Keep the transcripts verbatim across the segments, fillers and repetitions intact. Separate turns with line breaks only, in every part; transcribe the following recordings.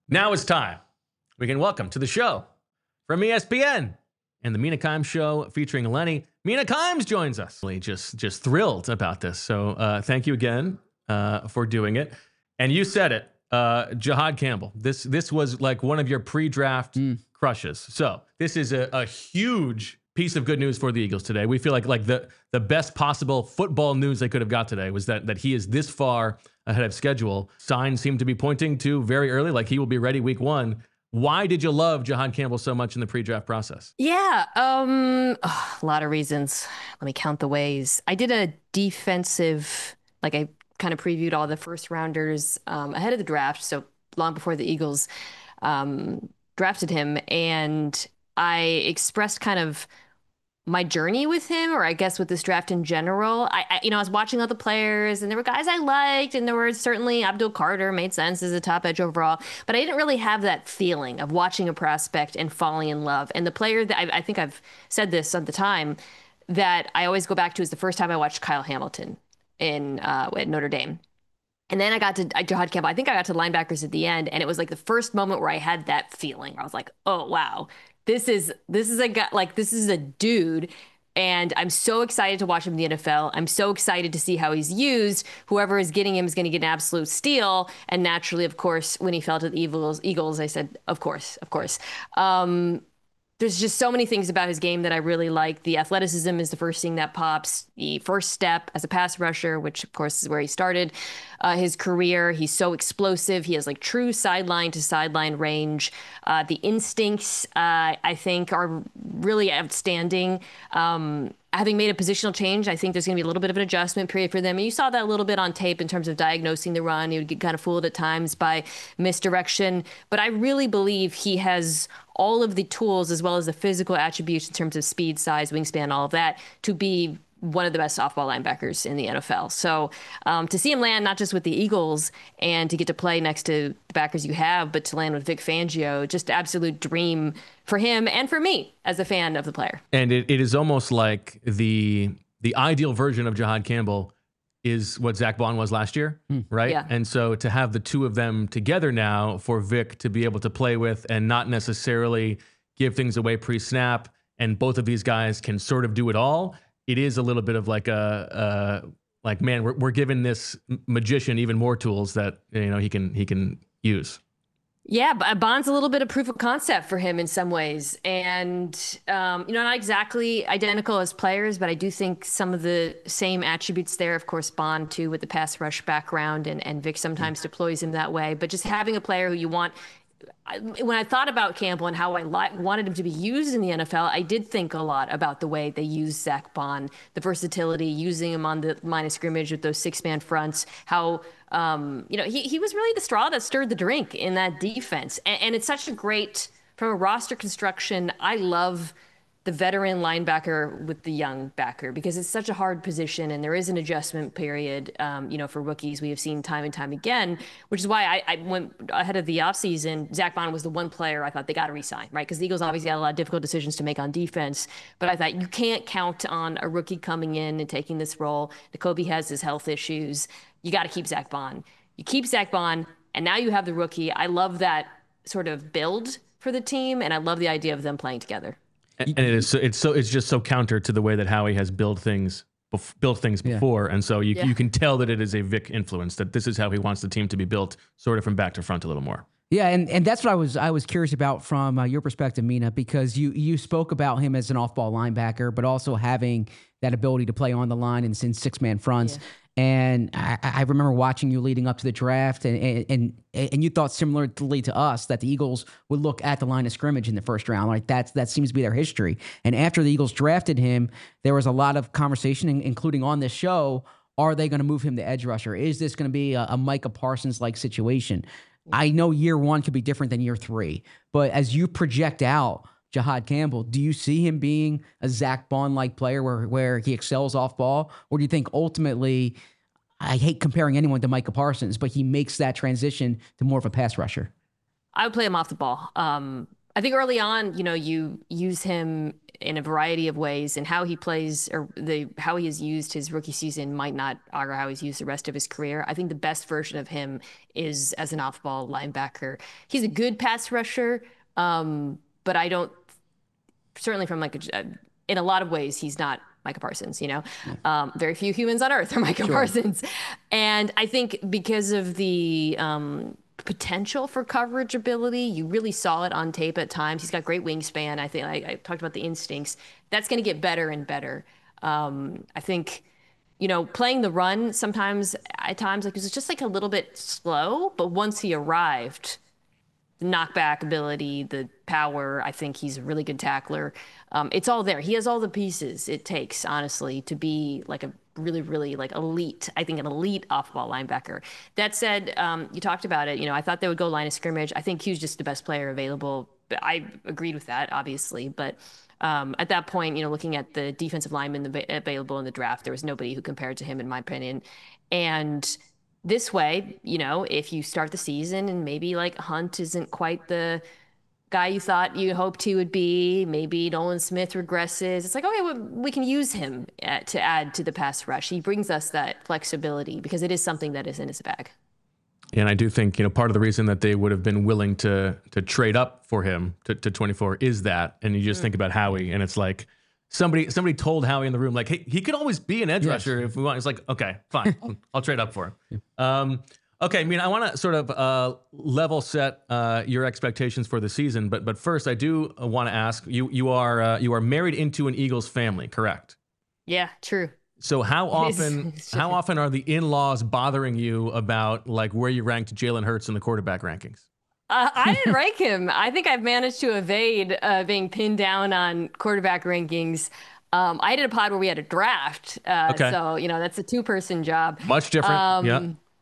Now it's time. We can welcome to the show from E S P N and the Mina Kimes Show featuring Lenny. Mina Kimes joins us. Just, just thrilled about this. So uh, thank you again uh, for doing it. And you said it, uh, Jihaad Campbell. This this was like one of your pre-draft mm. crushes. So this is a, a huge piece of good news for the Eagles today. We feel like like the the best possible football news they could have got today was that that he is this far ahead of schedule. Signs seem to be pointing to very early, like he will be ready week one. Why did you love Jihaad Campbell so much in the pre-draft process?
Yeah, um, oh, a lot of reasons. Let me count the ways. I did a defensive, like I kind of previewed all the first rounders um, ahead of the draft, so long before the Eagles um, drafted him, and I expressed kind of my journey with him, or I guess with this draft in general. I, I, you know, I was watching other players, and there were guys I liked, and there were certainly Abdul Carter made sense as a top edge overall, but I didn't really have that feeling of watching a prospect and falling in love. And the player that I, I think I've said this at the time that I always go back to is the first time I watched Kyle Hamilton in uh, at Notre Dame. And then I got to Jihaad Campbell. I think I got to linebackers at the end, and it was like the first moment where I had that feeling. I was like, oh, wow. This is this is a guy, like this is a dude, and I'm so excited to watch him in the N F L. I'm so excited to see how he's used. Whoever is getting him is going to get an absolute steal. And naturally, of course, when he fell to the Eagles, Eagles, I said, of course, of course. Um, There's just so many things about his game that I really like. The athleticism is the first thing that pops. The first step as a pass rusher, which of course is where he started uh, his career. He's so explosive. He has like true sideline to sideline range. Uh, the instincts, uh, I think, are really outstanding. Um, Having made a positional change, I think there's going to be a little bit of an adjustment period for them. And you saw that a little bit on tape in terms of diagnosing the run. He would get kind of fooled at times by misdirection. But I really believe he has all of the tools as well as the physical attributes in terms of speed, size, wingspan, all of that to be one of the best softball linebackers in the N F L. So um, to see him land not just with the Eagles and to get to play next to the backers you have, but to land with Vic Fangio, just absolute dream for him and for me as a fan of the player.
And it, it is almost like the the ideal version of Jihaad Campbell is what Zach Bond was last year, mm. right?
Yeah.
And so to have the two of them together now for Vic to be able to play with and not necessarily give things away pre-snap, and both of these guys can sort of do it all, it is a little bit of like a, uh, like, man, we're we're giving this magician even more tools that, you know, he can he can use.
Yeah, Bond's a little bit of proof of concept for him in some ways. And, um, you know, not exactly identical as players, but I do think some of the same attributes there. Of course, Bond, too, with the pass rush background, and, and Vic sometimes deploys him that way. But just having a player who you want... I, when I thought about Campbell and how I li- wanted him to be used in the N F L, I did think a lot about the way they used Zach Bond, the versatility, using him on the line of scrimmage with those six-man fronts, how... Um, you know, he, he was really the straw that stirred the drink in that defense. And, and it's such a great, from a roster construction, I love the veteran linebacker with the young backer because it's such a hard position and there is an adjustment period, um, you know, for rookies we have seen time and time again, which is why I, I went ahead of the offseason. Zach Bond was the one player I thought they got to re-sign, right? Because the Eagles obviously had a lot of difficult decisions to make on defense, but I thought you can't count on a rookie coming in and taking this role. Nakobe has his health issues. You got to keep Zach Bond. You keep Zach Bond, and now you have the rookie. I love that sort of build for the team, and I love the idea of them playing together.
And it is so, it's so it's just so counter to the way that Howie has built things bef- built things before, yeah. And so you yeah. you can tell that it is a Vic influence, that this is how he wants the team to be built, sort of from back to front a little more.
Yeah, and, and that's what I was I was curious about from uh, your perspective, Mina, because you you spoke about him as an off-ball linebacker, but also having that ability to play on the line and in six-man fronts. Yeah. And I, I remember watching you leading up to the draft, and, and and you thought similarly to us that the Eagles would look at the line of scrimmage in the first round. Like that's that seems to be their history. And after the Eagles drafted him, there was a lot of conversation, including on this show. Are they going to move him to edge rusher? Is this going to be a, a Micah Parsons-like situation? I know year one could be different than year three, but as you project out Jihaad Campbell, do you see him being a Zach Bond-like player where, where he excels off ball? Or do you think ultimately, I hate comparing anyone to Micah Parsons, but he makes that transition to more of a pass rusher?
I would play him off the ball. Um, I think early on, you know, you use him in a variety of ways, and how he plays or the how he has used his rookie season might not augur how he's used the rest of his career. I think the best version of him is as an off-ball linebacker. He's a good pass rusher, um, but I don't certainly from like a, in a lot of ways he's not Micah Parsons. You know, yeah. um, very few humans on earth are Micah sure. Parsons, and I think because of the um, potential for coverage ability, you really saw it on tape at times. He's got great wingspan. I think I, I talked about the instincts. That's going to get better and better. Um, I think, you know, playing the run sometimes at times like it was just like a little bit slow, but once he arrived, the knockback ability, the power, I think he's a really good tackler. Um, it's all there. He has all the pieces it takes, honestly, to be like a really, really like elite, I think an elite off-ball linebacker. That said, um, you talked about it, you know, I thought they would go line of scrimmage. I think Q's just the best player available. I agreed with that, obviously. But um, at that point, you know, looking at the defensive linemen available in the draft, there was nobody who compared to him, in my opinion. And this way, you know, if you start the season and maybe like Hunt isn't quite the guy you thought you hoped he would be, maybe Nolan Smith regresses, it's like, okay, well, we can use him at, to add to the pass rush. He brings us that flexibility because it is something that is in his bag.
And I do think, you know, part of the reason that they would have been willing to to trade up for him to, to twenty-four is that. And you just mm. think about Howie, and it's like somebody somebody told Howie in the room, like, hey, he could always be an edge yes. rusher if we want. It's like, okay, fine, I'll trade up for him. Um, Okay, I mean, I want to sort of uh, level set uh, your expectations for the season, but but first, I do want to ask you: you are uh, you are married into an Eagles family, correct?
Yeah, true.
So how often how often are the in-laws bothering you about like where you ranked Jalen Hurts in the quarterback rankings?
Uh, I didn't rank him. I think I've managed to evade uh, being pinned down on quarterback rankings. Um, I did a pod where we had a draft, uh, okay. so you know that's a two-person job.
Much different. Um, yeah.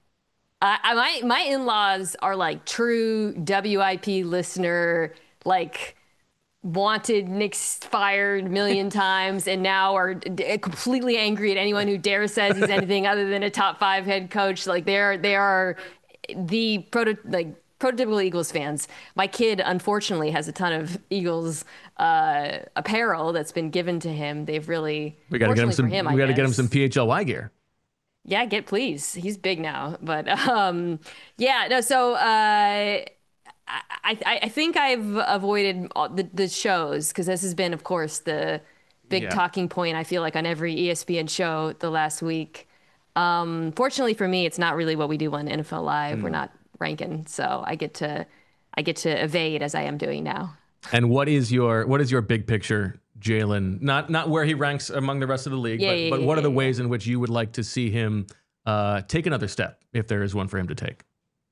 I, I, my my in-laws are like true W I P listener, like wanted Nick fired a million times, and now are d- completely angry at anyone who dare says he's anything other than a top five head coach. Like they are they are the proto like prototypical Eagles fans. My kid, unfortunately, has a ton of Eagles uh, apparel that's been given to him. They've really
we got to get him some.
Him,
we got to get him some P H L Y gear.
Yeah, get please. He's big now, but um, yeah, no. So uh, I, I I think I've avoided all the the shows because this has been, of course, the big yeah. talking point. I feel like on every E S P N show the last week. Um, fortunately for me, it's not really what we do on N F L Live. Mm. We're not ranking, so I get to I get to evade as I am doing now.
And what is your what is your big picture, Jalen? Not not where he ranks among the rest of the league, yeah, but, yeah, but what yeah, are the yeah. ways in which you would like to see him uh, take another step, if there is one for him to take?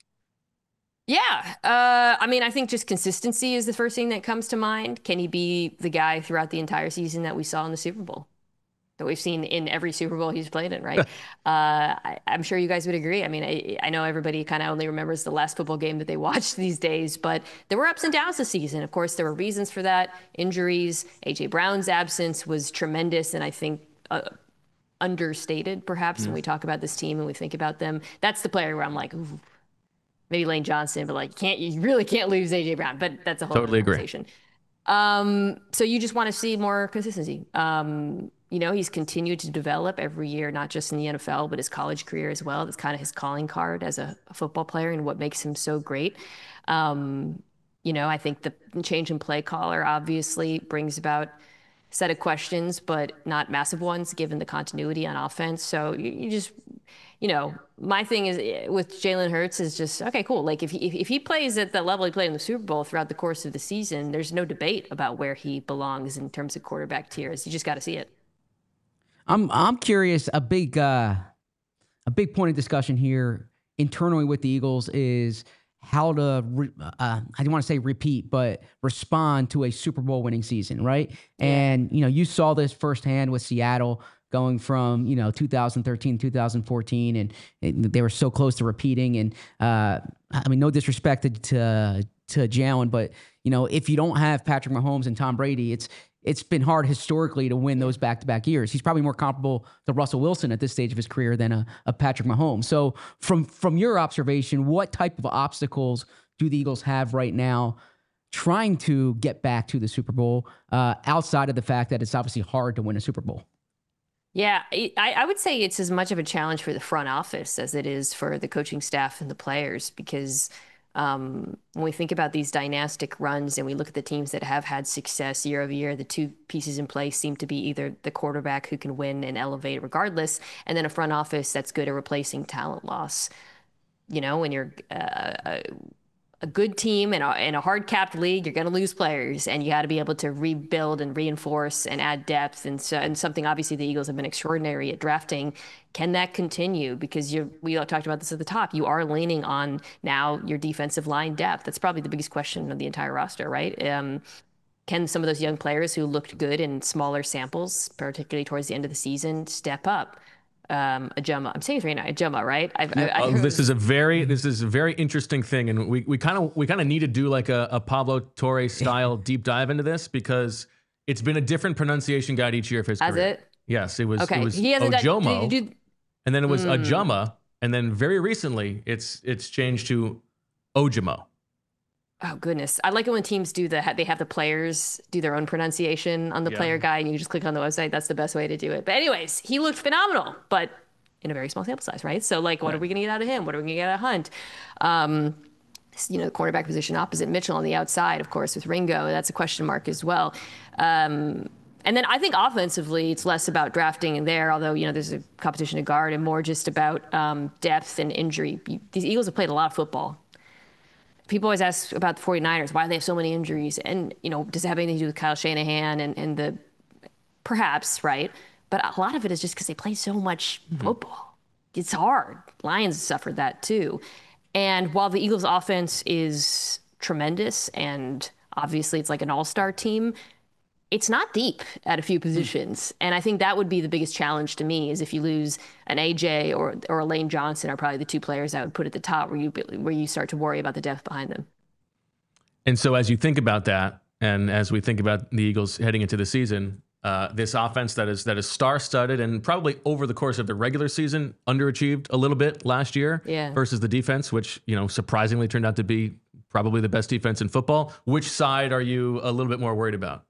Yeah, uh, I mean, I think just consistency is the first thing that comes to mind. Can he be the guy throughout the entire season that we saw in the Super Bowl? That we've seen in every Super Bowl he's played in, right? uh, I, I'm sure you guys would agree. I mean, I, I know everybody kind of only remembers the last football game that they watched these days, but there were ups and downs this season. Of course, there were reasons for that. Injuries, A J Brown's absence was tremendous, and I think uh, understated, perhaps, mm. when we talk about this team and we think about them. That's the player where I'm like, ooh, maybe Lane Johnson, but like, you can't you really can't lose A J Brown. But that's a whole
totally
other conversation.
Agree.
Um, so you just want to see more consistency. Um, You know, he's continued to develop every year, not just in the N F L, but his college career as well. That's kind of his calling card as a, a football player and what makes him so great. Um, you know, I think the change in play caller obviously brings about a set of questions, but not massive ones given the continuity on offense. So you, you just, you know, my thing is with Jalen Hurts is just, okay, cool. Like if he, if, if he plays at the level he played in the Super Bowl throughout the course of the season, there's no debate about where he belongs in terms of quarterback tiers. You just got to see it.
I'm I'm curious. A big uh, a big point of discussion here internally with the Eagles is how to re, uh, I don't want to say repeat, but respond to a Super Bowl winning season, right? Yeah. And you know, you saw this firsthand with Seattle going from you know two thousand thirteen, two thousand fourteen, and it, they were so close to repeating. And uh, I mean, no disrespect to to, to Jalen, but you know, if you don't have Patrick Mahomes and Tom Brady, it's It's been hard historically to win those back-to-back years. He's probably more comparable to Russell Wilson at this stage of his career than a, a Patrick Mahomes. So from, from your observation, what type of obstacles do the Eagles have right now trying to get back to the Super Bowl, uh, outside of the fact that it's obviously hard to win a Super Bowl?
Yeah, I, I would say it's as much of a challenge for the front office as it is for the coaching staff and the players, because um, when we think about these dynastic runs and we look at the teams that have had success year over year, the two pieces in place seem to be either the quarterback who can win and elevate regardless, and then a front office that's good at replacing talent loss. You know, when you're uh, a, a good team in a, in a hard-capped league, you're going to lose players, and you got to be able to rebuild and reinforce and add depth. And so, and something obviously the Eagles have been extraordinary at drafting. Can that continue? Because you we all talked about this at the top. You are leaning on now your defensive line depth. That's probably the biggest question of the entire roster, right? Um, can some of those young players who looked good in smaller samples, particularly towards the end of the season, step up? Um, Ajuma. I'm saying it right now, Ajuma, right? I've,
yeah. I, I, oh, this is a very, this is a very interesting thing, and we we kind of we kind of need to do like a, a Pablo Torre style deep dive into this, because it's been a different pronunciation guide each year of his
Has
career.
it?
Yes, it was.
Okay.
It was
He hasn't
Ojomo,
done, do, do,
and then it was
mm.
Ajuma, and then very recently it's it's changed to Ojomo.
Oh goodness, I like it when teams do the they have the players do their own pronunciation on the yeah. player guide, and you just click on the website. That's the best way to do it. But anyways, he looked phenomenal, but in a very small sample size, right? So like, what right. are we going to get out of him? What are we going to get out of Hunt? Um, you know, the cornerback position opposite Mitchell on the outside, of course, with Ringo, that's a question mark as well. Um, and then I think offensively, it's less about drafting in there, although, you know, there's a competition to guard, and more just about um, depth and injury. These Eagles have played a lot of football. People always ask about the 49ers, why they have so many injuries. And, you know, does it have anything to do with Kyle Shanahan and, and the, perhaps, right? But a lot of it is just because they play so much mm-hmm. football. It's hard. Lions suffered that too. And while the Eagles offense is tremendous, and obviously it's like an all-star team, it's not deep at a few positions. Mm. And I think that would be the biggest challenge to me, is if you lose an A J or or a Lane Johnson are probably the two players I would put at the top where you where you start to worry about the depth behind them.
And so as you think about that, and as we think about the Eagles heading into the season, uh, this offense that is that is star-studded and probably over the course of the regular season underachieved a little bit last year
yeah.
versus the defense, which, you know, surprisingly turned out to be probably the best defense in football. Which side are you a little bit more worried about?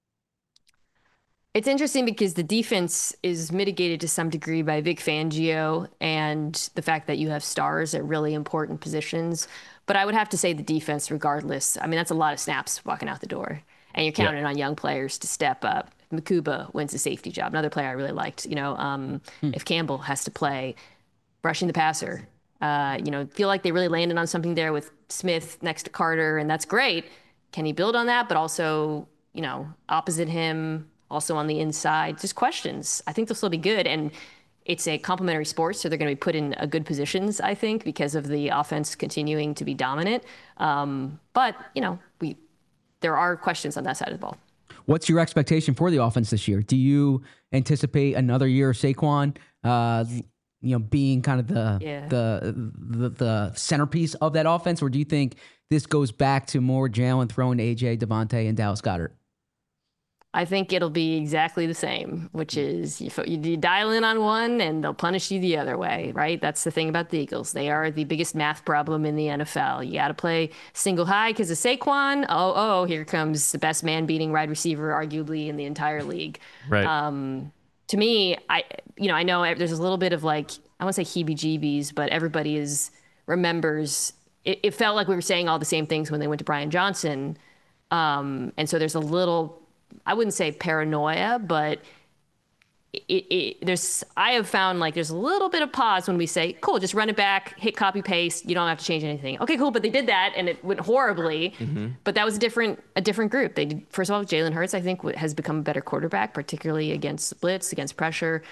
It's interesting because the defense is mitigated to some degree by Vic Fangio and the fact that you have stars at really important positions. But I would have to say the defense regardless. I mean, that's a lot of snaps walking out the door. And you're counting yeah. on young players to step up. Makuba wins the safety job. Another player I really liked. You know, um, hmm. if Campbell has to play, rushing the passer. Uh, you know, feel like they really landed on something there with Smith next to Carter, and that's great. Can he build on that? But also, you know, opposite him, also on the inside, just questions. I think they'll still be good. And it's a complementary sport, so they're going to be put in a good positions, I think, because of the offense continuing to be dominant. Um, but, you know, we there are questions on that side of the ball.
What's your expectation for the offense this year? Do you anticipate another year of Saquon, uh, you know, being kind of the,
yeah.
the the the centerpiece of that offense, or do you think this goes back to more Jalen throwing to A J, Devontae, and Dallas Goedert?
I think it'll be exactly the same, which is you, you dial in on one and they'll punish you the other way, right? That's the thing about the Eagles. They are the biggest math problem in the N F L. You got to play single high because of Saquon. Oh, oh, here comes the best man-beating wide receiver, arguably, in the entire league.
Right.
Um, to me, I you know I know there's a little bit of like, I won't say heebie-jeebies, but everybody is remembers. It, it felt like we were saying all the same things when they went to Brian Johnson, um, and so there's a little. I wouldn't say paranoia, but it, it, there's. I have found like there's a little bit of pause when we say, "Cool, just run it back, hit copy paste. You don't have to change anything." Okay, cool, but they did that and it went horribly. Mm-hmm. But that was a different a different group. They did, first of all, Jalen Hurts, I think, has become a better quarterback, particularly against blitz, against pressure,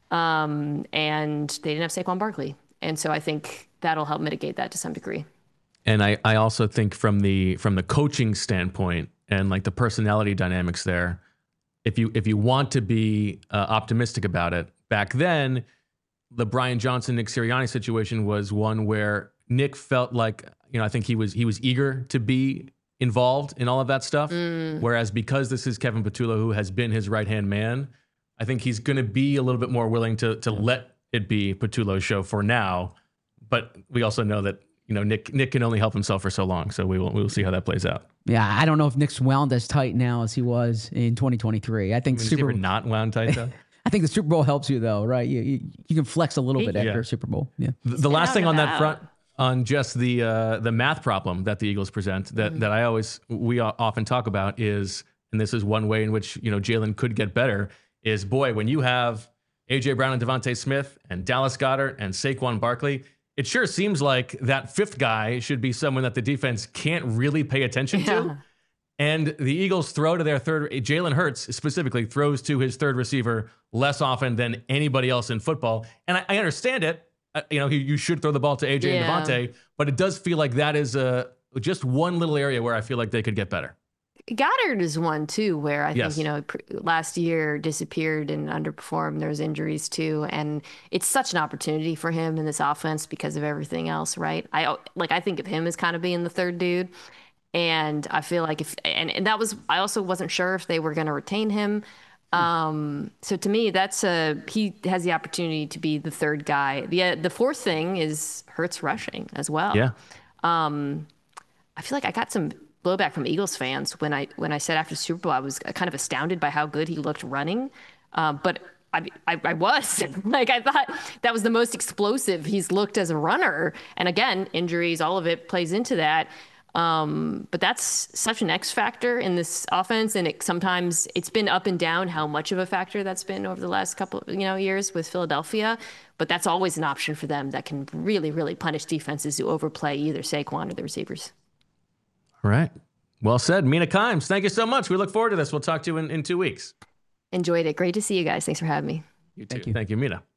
um, and they didn't have Saquon Barkley, and so I think that'll help mitigate that to some degree.
And I, I also think from the from the coaching standpoint. And like the personality dynamics there, if you if you want to be uh, optimistic about it, back then, the Brian Johnson, Nick Sirianni situation was one where Nick felt like, you know, I think he was he was eager to be involved in all of that stuff. Mm. Whereas because this is Kevin Patullo, who has been his right hand man, I think he's going to be a little bit more willing to to let it be Patullo's show for now. But we also know that, you know, Nick Nick can only help himself for so long. So we will we will see how that plays out.
Yeah, I don't know if Nick's wound as tight now as he was in twenty twenty-three. I think
I mean,
Super
is he ever not wound tight though.
I think the Super Bowl helps you though, right? You you, you can flex a little bit
Yeah.
after Super Bowl. Yeah.
The, the last thing on that front, on just the uh, the math problem that the Eagles present, that
Mm-hmm.
that I always we often talk about is, and this is one way in which you know Jalen could get better, is boy, when you have A J Brown and Devontae Smith and Dallas Goedert and Saquon Barkley, it sure seems like that fifth guy should be someone that the defense can't really pay attention
Yeah.
to. And the Eagles throw to their third, Jalen Hurts specifically throws to his third receiver less often than anybody else in football. And I, I understand it. Uh, you know, you, you should throw the ball to A J
Yeah.
and Devontae, but it does feel like that is uh, just one little area where I feel like they could get better.
Goddard is one too, where I
Yes.
think, you know, pr- last year disappeared and underperformed. There was injuries too. And it's such an opportunity for him in this offense because of everything else, right? I like, I think of him as kind of being the third dude. And I feel like if, and, and that was, I also wasn't sure if they were going to retain him. Um, so to me, that's a, he has the opportunity to be the third guy. The, uh, the fourth thing is Hurts rushing as well.
Yeah.
I feel like I got some blowback from Eagles fans when I when I said after the Super Bowl I was kind of astounded by how good he looked running, um, but I, I I was like I thought that was the most explosive he's looked as a runner. And again, injuries, all of it plays into that. Um, but that's such an X factor in this offense, and it sometimes it's been up and down how much of a factor that's been over the last couple you know years with Philadelphia. But that's always an option for them that can really really punish defenses who overplay either Saquon or the receivers.
All right. Well said. Mina Kimes, thank you so much. We look forward to this. We'll talk to you in, in two weeks.
Enjoyed it. Great to see you guys. Thanks for having me.
You too.
Thank you.
Thank you, Mina.